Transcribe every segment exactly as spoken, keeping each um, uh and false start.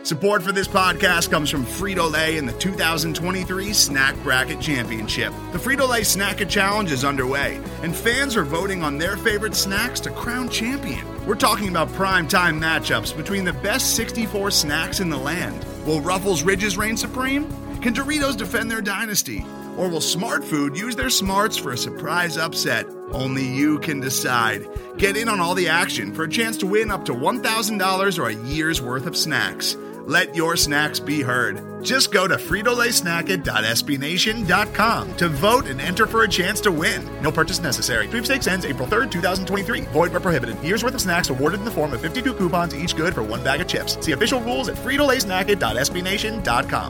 Support for this podcast comes from Frito-Lay and the two thousand twenty-three Snack Bracket Championship. The Frito-Lay Snack-A Challenge is underway, and fans are voting on their favorite snacks to crown champion. We're talking about prime-time matchups between the best sixty-four snacks in the land. Will Ruffles Ridges reign supreme? Can Doritos defend their dynasty? Or will Smart Food use their smarts for a surprise upset? Only you can decide. Get in on all the action for a chance to win up to one thousand dollars or a year's worth of snacks. Let your snacks be heard. Just go to Frito Lay Snack It dot S B Nation dot com to vote and enter for a chance to win. No purchase necessary. Sweepstakes ends April third, twenty twenty-three. Void where prohibited. Year's worth of snacks awarded in the form of fifty-two coupons, each good for one bag of chips. See official rules at Frito Lay Snack It dot S B Nation dot com.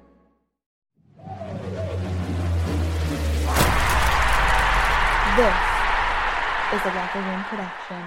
This is a Locker Room production.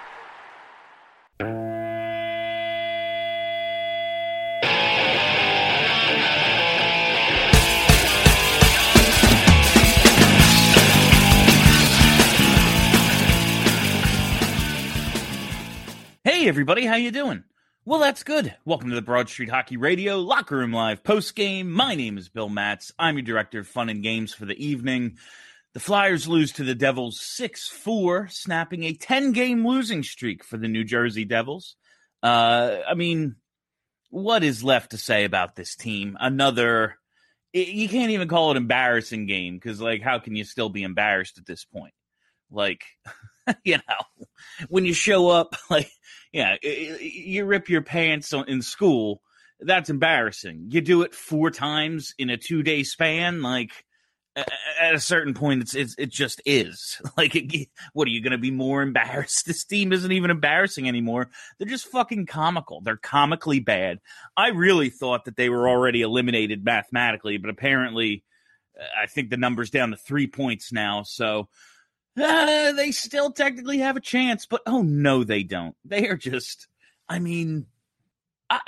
Hey everybody, how you doing? Well, that's good. Welcome to the Broad Street Hockey Radio Locker Room Live postgame. My name is Bill Matz. I'm your director of fun and games for the evening. The Flyers lose to the Devils six four, snapping a ten-game losing streak for the New Jersey Devils. Uh, I mean, what is left to say about this team? Another, you can't even call it embarrassing game, because, like, how can you still be embarrassed at this point? Like, you know, when you show up, like, yeah, you rip your pants in school, that's embarrassing. You do it four times in a two-day span, like, at a certain point, it's, it's it just is. Like, it, what, are you going to be more embarrassed? This team isn't even embarrassing anymore. They're just fucking comical. They're comically bad. I really thought that they were already eliminated mathematically, but apparently I think the number's down to three points now, so uh, they still technically have a chance, but oh no, they don't. They are just, I mean, I...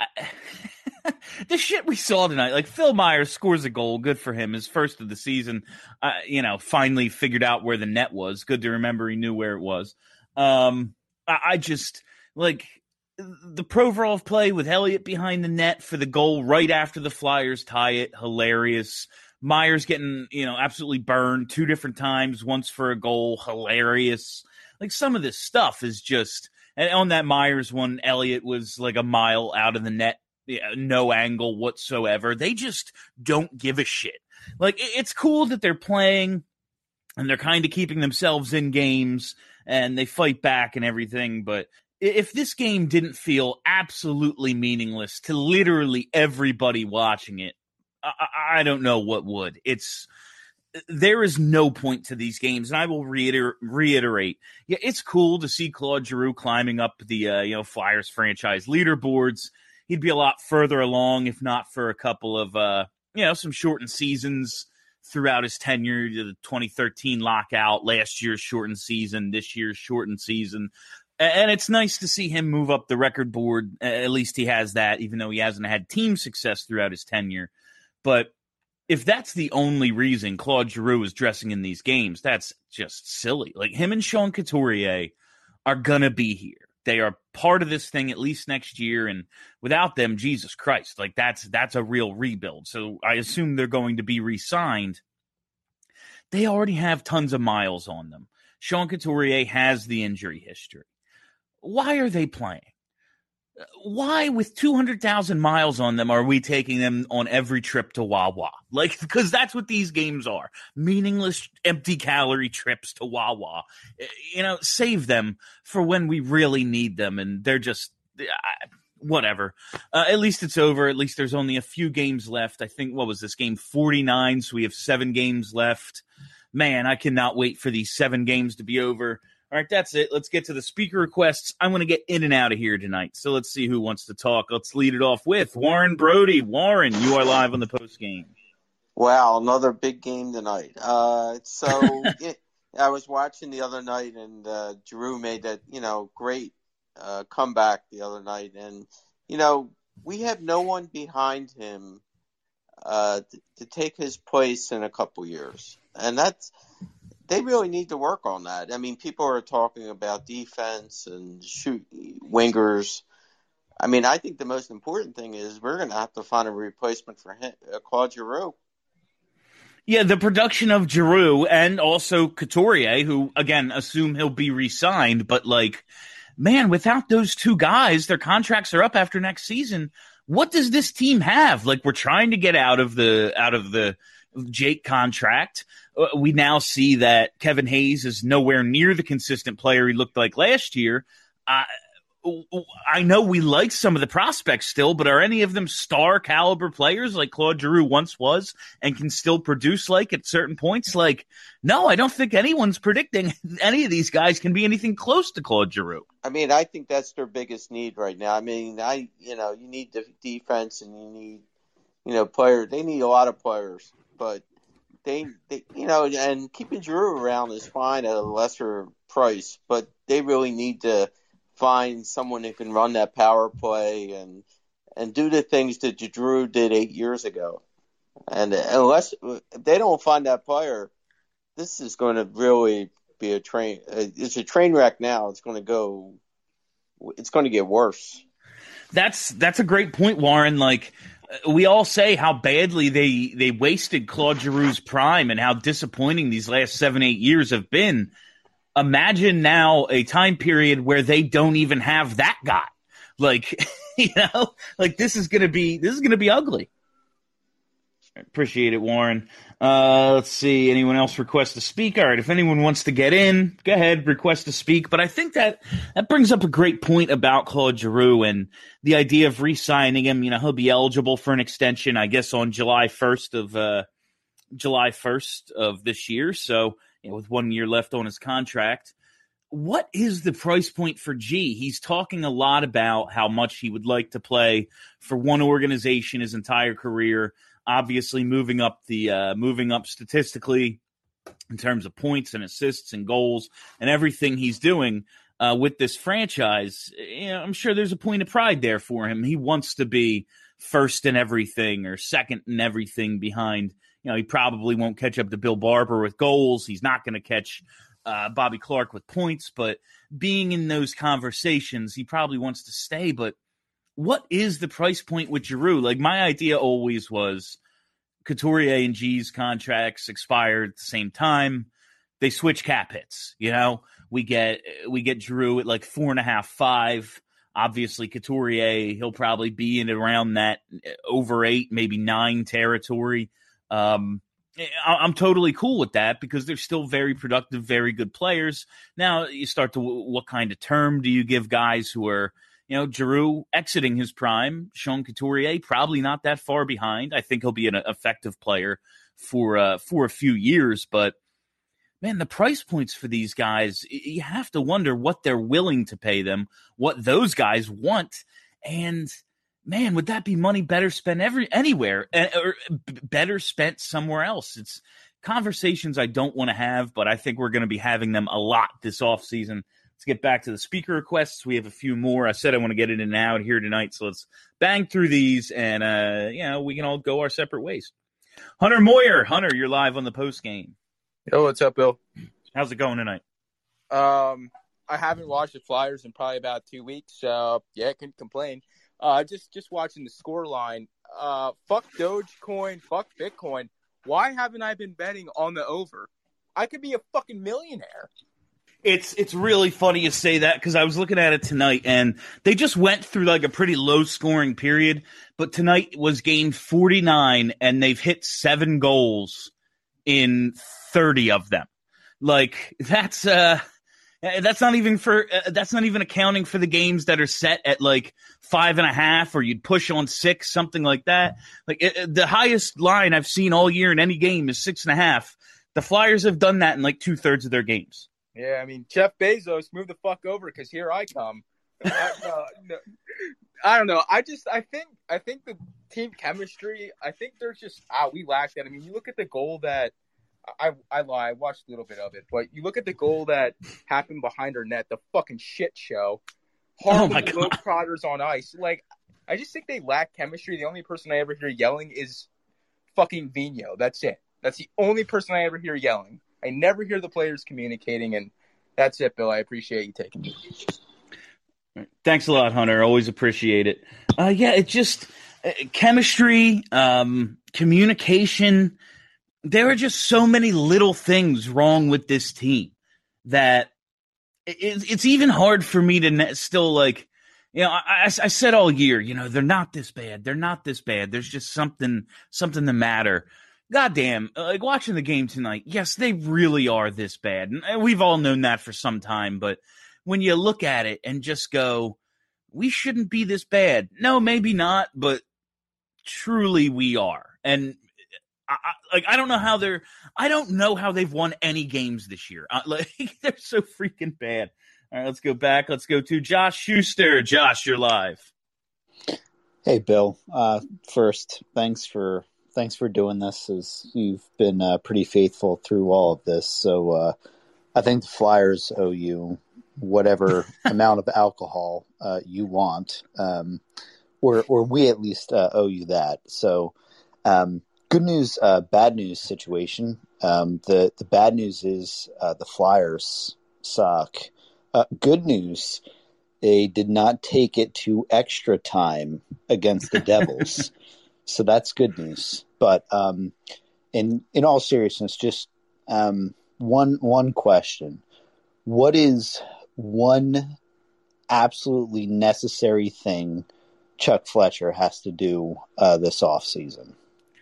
the shit we saw tonight, like Phil Myers scores a goal, good for him, his first of the season, uh, you know, finally figured out where the net was. Good to remember he knew where it was. Um, I, I just, like, the Provorov play with Elliott behind the net for the goal right after the Flyers tie it, hilarious. Myers getting, you know, absolutely burned two different times, once for a goal, hilarious. Like, some of this stuff is just, and on that Myers one, Elliott was like a mile out of the net. Yeah, no angle whatsoever. They just don't give a shit. Like, it's cool that they're playing and they're kind of keeping themselves in games and they fight back and everything. But if this game didn't feel absolutely meaningless to literally everybody watching it, I, I don't know what would. It's there is no point to these games, and I will reiter- reiterate. Yeah, it's cool to see Claude Giroux climbing up the uh, you know Flyers franchise leaderboards. He'd be a lot further along if not for a couple of, uh, you know, some shortened seasons throughout his tenure. The twenty thirteen lockout, last year's shortened season, this year's shortened season. And it's nice to see him move up the record board. At least he has that, even though he hasn't had team success throughout his tenure. But if that's the only reason Claude Giroux is dressing in these games, that's just silly. Like, him and Sean Couturier are going to be here. They are part of this thing at least next year, and without them, Jesus Christ, like that's that's a real rebuild. So I assume they're going to be re-signed. They already have tons of miles on them. Sean Couturier has the injury history. Why are they playing? Why, with two hundred thousand miles on them, are we taking them on every trip to Wawa? Like, because that's what these games are. Meaningless, empty-calorie trips to Wawa. You know, save them for when we really need them, and they're just, uh, whatever. Uh, at least it's over. At least there's only a few games left. I think, what was this, game forty-nine, so we have seven games left. Man, I cannot wait for these seven games to be over. All right, that's it. Let's get to the speaker requests. I'm going to get in and out of here tonight, so let's see who wants to talk. Let's lead it off with Warren Brody. Warren, you are live on the post game. Wow, another big game tonight. Uh, so it, I was watching the other night, and uh, Giroux made that, you know, great uh, comeback the other night. And, you know, we have no one behind him uh, to, to take his place in a couple years. And that's they really need to work on that. I mean, people are talking about defense and shoot wingers. I mean, I think the most important thing is we're going to have to find a replacement for him, uh, Claude Giroux. Yeah, the production of Giroux and also Couturier, who, again, assume he'll be re-signed, but, like, man, without those two guys, their contracts are up after next season. What does this team have? Like, we're trying to get out of the out of the Jake contract. Uh, we now see that Kevin Hayes is nowhere near the consistent player he looked like last year. Uh, I know we like some of the prospects still, but are any of them star caliber players like Claude Giroux once was and can still produce like at certain points? Like, no, I don't think anyone's predicting any of these guys can be anything close to Claude Giroux. I mean, I think that's their biggest need right now. I mean, I, you know, you need the defense and you need, you know, players. They need a lot of players, but they, they, you know, and keeping Giroux around is fine at a lesser price, but they really need to find someone who can run that power play and and do the things that Giroux did eight years ago. And unless if they don't find that player, this is going to really be a train. It's a train wreck now. It's going to go. It's going to get worse. That's that's a great point, Warren. Like, we all say how badly they they wasted Claude Giroux's prime and how disappointing these last seven eight years have been. Imagine now a time period where they don't even have that guy. Like, you know, like this is going to be, this is going to be ugly. Appreciate it, Warren. Uh, let's see. Anyone else request to speak? All right. If anyone wants to get in, go ahead, request to speak. But I think that that brings up a great point about Claude Giroux and the idea of re-signing him. You know, he'll be eligible for an extension, I guess, on July first of, uh, July first of this year. So, you know, with one year left on his contract. What is the price point for G? He's talking a lot about how much he would like to play for one organization his entire career. Obviously, moving up the uh, moving up statistically in terms of points and assists and goals and everything he's doing uh, with this franchise. You know, I'm sure there's a point of pride there for him. He wants to be first in everything or second in everything behind. You know, he probably won't catch up to Bill Barber with goals. He's not going to catch uh, Bobby Clark with points. But being in those conversations, he probably wants to stay. But what is the price point with Giroux? Like, my idea always was Couturier and G's contracts expired at the same time. They switch cap hits. You know, we get we get Giroux at like four and a half, five. Obviously, Couturier, he'll probably be in around that over eight, maybe nine territory. Um, I'm totally cool with that because they're still very productive, very good players. Now you start to, what kind of term do you give guys who are, you know, Giroux exiting his prime, Sean Couturier, probably not that far behind. I think he'll be an effective player for, uh, for a few years, but man, the price points for these guys, you have to wonder what they're willing to pay them, what those guys want. And man, would that be money better spent every anywhere or better spent somewhere else? It's conversations I don't want to have, but I think we're going to be having them a lot this offseason. Let's get back to the speaker requests. We have a few more. I said I want to get in and out here tonight, so let's bang through these, and uh, you know, we can all go our separate ways. Hunter Moyer, Hunter, you're live on the post game. Yo, what's up, Bill? How's it going tonight? Um, I haven't watched the Flyers in probably about two weeks, so yeah, I couldn't complain. Uh, just just watching the score line. Uh, fuck Dogecoin, fuck Bitcoin. Why haven't I been betting on the over? I could be a fucking millionaire. It's it's really funny you say that because I was looking at it tonight, and they just went through like a pretty low scoring period. But tonight was game forty-nine, and they've hit seven goals in thirty of them. Like that's uh. That's not even for. Uh, that's not even accounting for the games that are set at like five and a half, or you'd push on six, something like that. Like it, the highest line I've seen all year in any game is six and a half. The Flyers have done that in like two thirds of their games. Yeah, I mean, Jeff Bezos, move the fuck over because here I come. I, no, no, I don't know. I just, I think, I think the team chemistry. I think there's just ah, we lack that. I mean, you look at the goal that. I, I lie. I watched a little bit of it, but you look at the goal that happened behind our net, the fucking shit show. Harlem oh Globetrotters on ice. Like, I just think they lack chemistry. The only person I ever hear yelling is fucking Vino. That's it. That's the only person I ever hear yelling. I never hear the players communicating, and that's it, Bill. I appreciate you taking me. Thanks a lot, Hunter. Always appreciate it. Uh, yeah, it just uh, chemistry, um, communication. There are just so many little things wrong with this team that it, it's even hard for me to ne- still like, you know, I, I, I said all year, you know, they're not this bad. They're not this bad. There's just something, something the matter. Goddamn, like watching the game tonight. Yes, they really are this bad. And we've all known that for some time, but when you look at it and just go, we shouldn't be this bad. No, maybe not, but truly we are. And I, I, like, I don't know how they're, I don't know how they've won any games this year. Uh, like, they're so freaking bad. All right, let's go back. Let's go to Josh Schuster. Josh, you're live. Hey, Bill. Uh, first, thanks for thanks for doing this. As you've been uh, pretty faithful through all of this. So uh, I think the Flyers owe you whatever amount of alcohol uh, you want, um, or or we at least uh, owe you that. So. Um, Good news, uh, bad news situation. Um, the, the bad news is uh, the Flyers suck. Uh, good news, they did not take it to extra time against the Devils. So that's good news. But um, in in all seriousness, just um, one one question. What is one absolutely necessary thing Chuck Fletcher has to do uh, this offseason?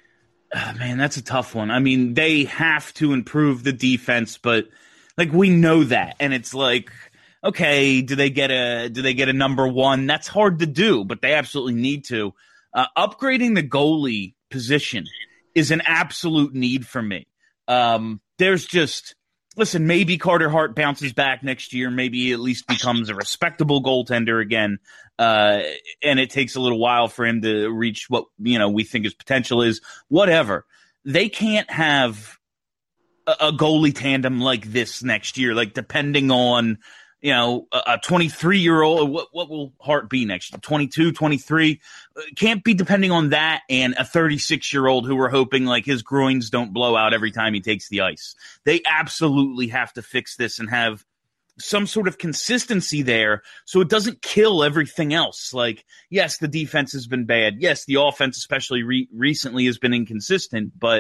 Oh, man, that's a tough one. I mean, they have to improve the defense, but like we know that, and it's like, okay, do they get a do they get a number one? That's hard to do, but they absolutely need to. Uh, upgrading the goalie position is an absolute need for me. Um, there's just listen, maybe Carter Hart bounces back next year. Maybe he at least becomes a respectable goaltender again. Uh, and it takes a little while for him to reach what, you know, we think his potential is. Whatever. They can't have a, a goalie tandem like this next year, like depending on, you know, a twenty-three-year-old. What, what will Hart be next year? twenty-two, twenty-three? Can't be depending on that and a thirty-six-year-old who we're hoping like his groins don't blow out every time he takes the ice. They absolutely have to fix this and have some sort of consistency there so it doesn't kill everything else. Like, yes, the defense has been bad. Yes, the offense, especially re- recently, has been inconsistent. But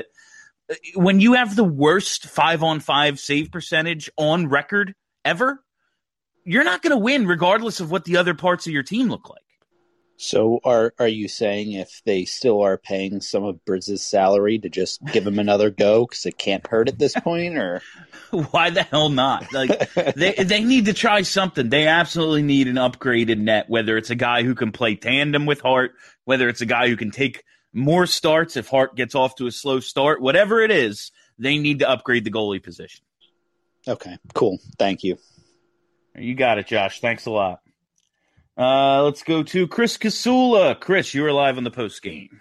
when you have the worst five-on-five save percentage on record ever, you're not going to win regardless of what the other parts of your team look like. So are are you saying if they still are paying some of Brizz's salary to just give him another go because it can't hurt at this point? Or why the hell not? Like they they need to try something. They absolutely need an upgraded net, whether it's a guy who can play tandem with Hart, whether it's a guy who can take more starts if Hart gets off to a slow start, whatever it is, they need to upgrade the goalie position. Okay, cool. Thank you. You got it, Josh. Thanks a lot. Uh, let's go to Chris Kasula. Chris, you are live on the post game.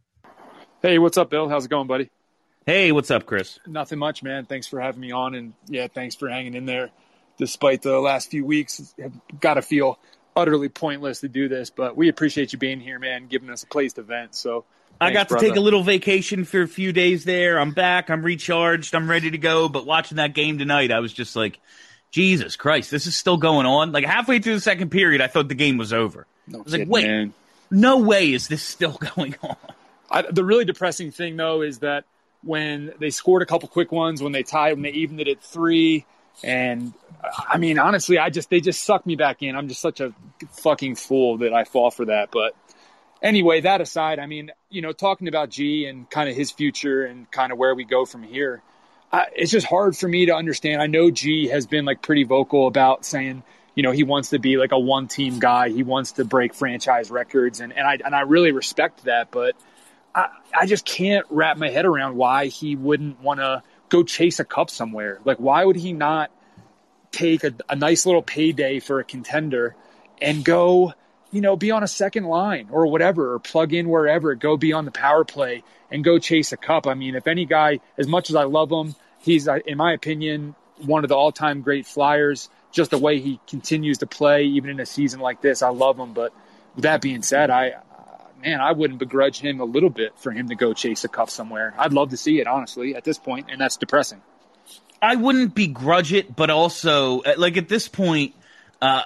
Hey, what's up, Bill? How's it going, buddy? Hey, what's up, Chris? Nothing much, man. Thanks for having me on, and yeah, thanks for hanging in there. Despite the last few weeks, I've got to feel utterly pointless to do this, but we appreciate you being here, man, giving us a place to vent. So thanks, I got to brother. take a little vacation for a few days there. I'm back. I'm recharged. I'm ready to go. But watching that game tonight, I was just like, Jesus Christ, this is still going on. Like halfway through the second period, I thought the game was over. No I was like, kidding, wait, man. No way is this still going on. I, the really depressing thing, though, is that when they scored a couple quick ones, when they tied, when they evened it at three, and I mean, honestly, I just they just sucked me back in. I'm just such a fucking fool that I fall for that. But anyway, that aside, I mean, you know, talking about G and kind of his future and kind of where we go from here, I, it's just hard for me to understand. I know G has been like pretty vocal about saying, you know, he wants to be like a one-team guy. He wants to break franchise records, and, and I and I really respect that. But I, I just can't wrap my head around why he wouldn't want to go chase a cup somewhere. Like, why would he not take a, a nice little payday for a contender and go, you know, be on a second line or whatever, or plug in wherever, go be on the power play and go chase a cup? I mean, if any guy, as much as I love him, he's, in my opinion, one of the all-time great Flyers. Just the way he continues to play, even in a season like this, I love him. But with that being said, I, uh, man, I wouldn't begrudge him a little bit for him to go chase a cup somewhere. I'd love to see it, honestly, at this point, and that's depressing. I wouldn't begrudge it, but also, like, at this point, uh,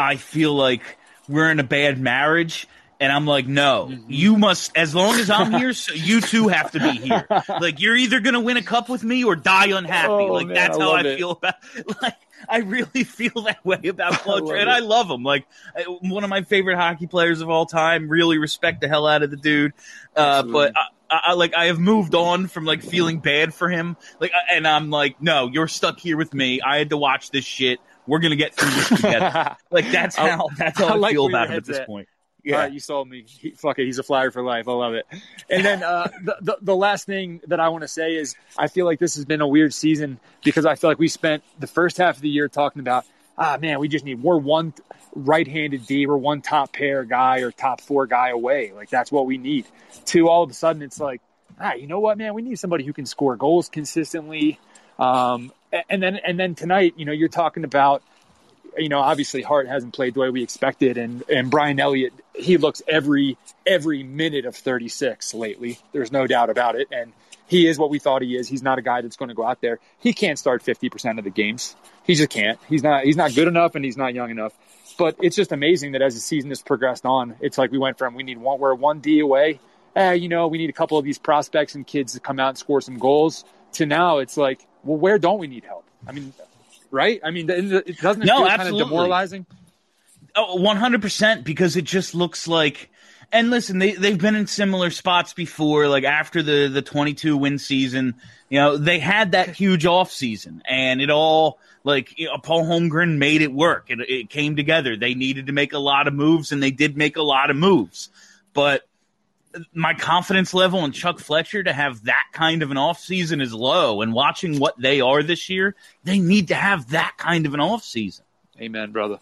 I feel like we're in a bad marriage. And I'm like, no, you must, as long as I'm here, so you two have to be here. Like, you're either going to win a cup with me or die unhappy. Oh, like, man, that's I how I it. feel about, like, I really feel that way about Claude Giroux. And it. I love him. Like, one of my favorite hockey players of all time. Really respect the hell out of the dude. Uh, but I, I, like, I have moved on from, like, feeling bad for him. Like, and I'm like, no, you're stuck here with me. I had to watch this shit. We're going to get through this together. Like, that's how, that's how I, I like feel where about your him at this head's at. point. Yeah, Yeah, right, you sold me. He, fuck it, he's a Flyer for life. I love it. And then uh, the, the the last thing that I want to say is I feel like this has been a weird season because I feel like we spent the first half of the year talking about, ah, man, we just need we're one right-handed D, we're one top pair guy or top four guy away. Like that's what we need. To all of a sudden, it's like, ah, you know what, man, we need somebody who can score goals consistently. Um, and then and then tonight, you know, you're talking about. You know, obviously Hart hasn't played the way we expected, and, and Brian Elliott, he looks every every minute of thirty-six lately. There's no doubt about it, and he is what we thought he is. He's not a guy that's going to go out there. He can't start fifty percent of the games. He just can't. He's not. He's not good enough, and he's not young enough. But it's just amazing that as the season has progressed on, it's like we went from we need one, we're one D away. Eh, you know, we need a couple of these prospects and kids to come out and score some goals. To now, it's like, well, where don't we need help? I mean. Right? I mean, it doesn't it no, feel absolutely. kind of demoralizing? Oh, one hundred percent, because it just looks like – and listen, they, they've been in similar spots before, like after the, the twenty-two win season. You know, they had that huge offseason, and it all – like, you know, Paul Holmgren made it work. It, it came together. They needed to make a lot of moves, and they did make a lot of moves. But my confidence level in Chuck Fletcher to have that kind of an offseason is low, and watching what they are this year, they need to have that kind of an offseason. Amen, brother.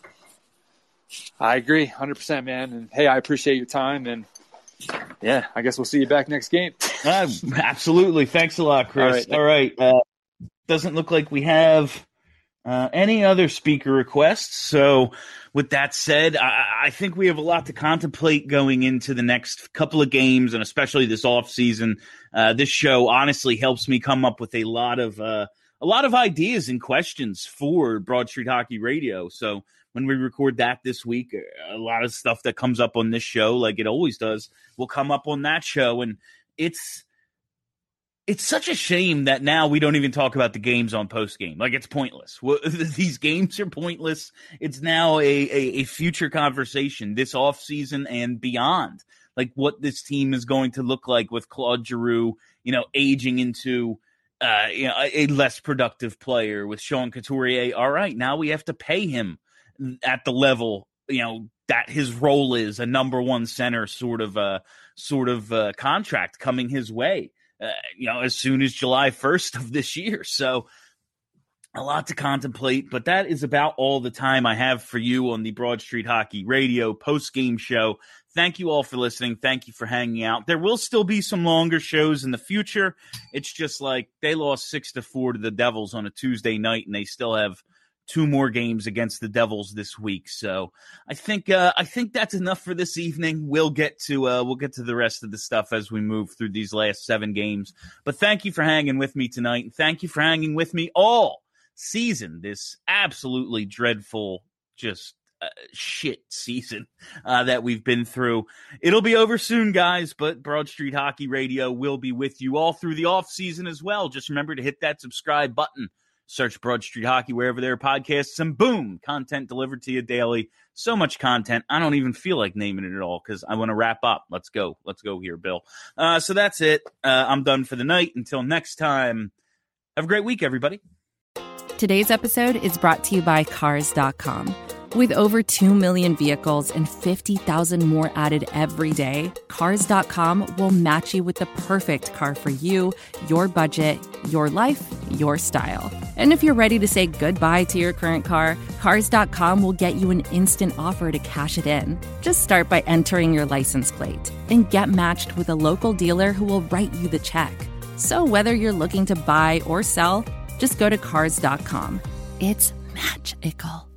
I agree, one hundred percent, man. And, hey, I appreciate your time, and, yeah, I guess we'll see you back next game. uh, absolutely. Thanks a lot, Chris. All All right. right. Uh, doesn't look like we have uh, any other speaker requests, so with that said, I, I think we have a lot to contemplate going into the next couple of games, and especially this offseason. Uh, this show honestly helps me come up with a lot of uh, a lot of ideas and questions for Broad Street Hockey Radio. So when we record that this week, a lot of stuff that comes up on this show, like it always does, will come up on that show, and it's it's such a shame that now we don't even talk about the games on post-game. Like, it's pointless. These games are pointless. It's now a, a, a future conversation this offseason and beyond. Like, what this team is going to look like with Claude Giroux, you know, aging into uh, you know, a, a less productive player, with Sean Couturier. All right, now we have to pay him at the level, you know, that his role is, a number one center sort of uh, sort of uh, contract coming his way. Uh, you know, as soon as July first of this year. So a lot to contemplate, but that is about all the time I have for you on the Broad Street Hockey Radio post-game show. Thank you all for listening. Thank you for hanging out. There will still be some longer shows in the future. It's just like they lost six to four to the Devils on a Tuesday night, and they still have two more games against the Devils this week. So I think uh, I think that's enough for this evening. We'll get to uh, we'll get to the rest of the stuff as we move through these last seven games. But thank you for hanging with me tonight, and thank you for hanging with me all season. This absolutely dreadful, just uh, shit season uh, that we've been through. It'll be over soon, guys. But Broad Street Hockey Radio will be with you all through the off season as well. Just remember to hit that subscribe button. Search Broad Street Hockey wherever there are podcasts, and boom, content delivered to you daily. So much content, I don't even feel like naming it at all because I want to wrap up. Let's go. Let's go here, Bill. Uh, so that's it. Uh, I'm done for the night. Until next time, have a great week, everybody. Today's episode is brought to you by Cars dot com. With over two million vehicles and fifty thousand more added every day, Cars dot com will match you with the perfect car for you, your budget, your life, your style. And if you're ready to say goodbye to your current car, Cars dot com will get you an instant offer to cash it in. Just start by entering your license plate and get matched with a local dealer who will write you the check. So whether you're looking to buy or sell, just go to Cars dot com. It's magical.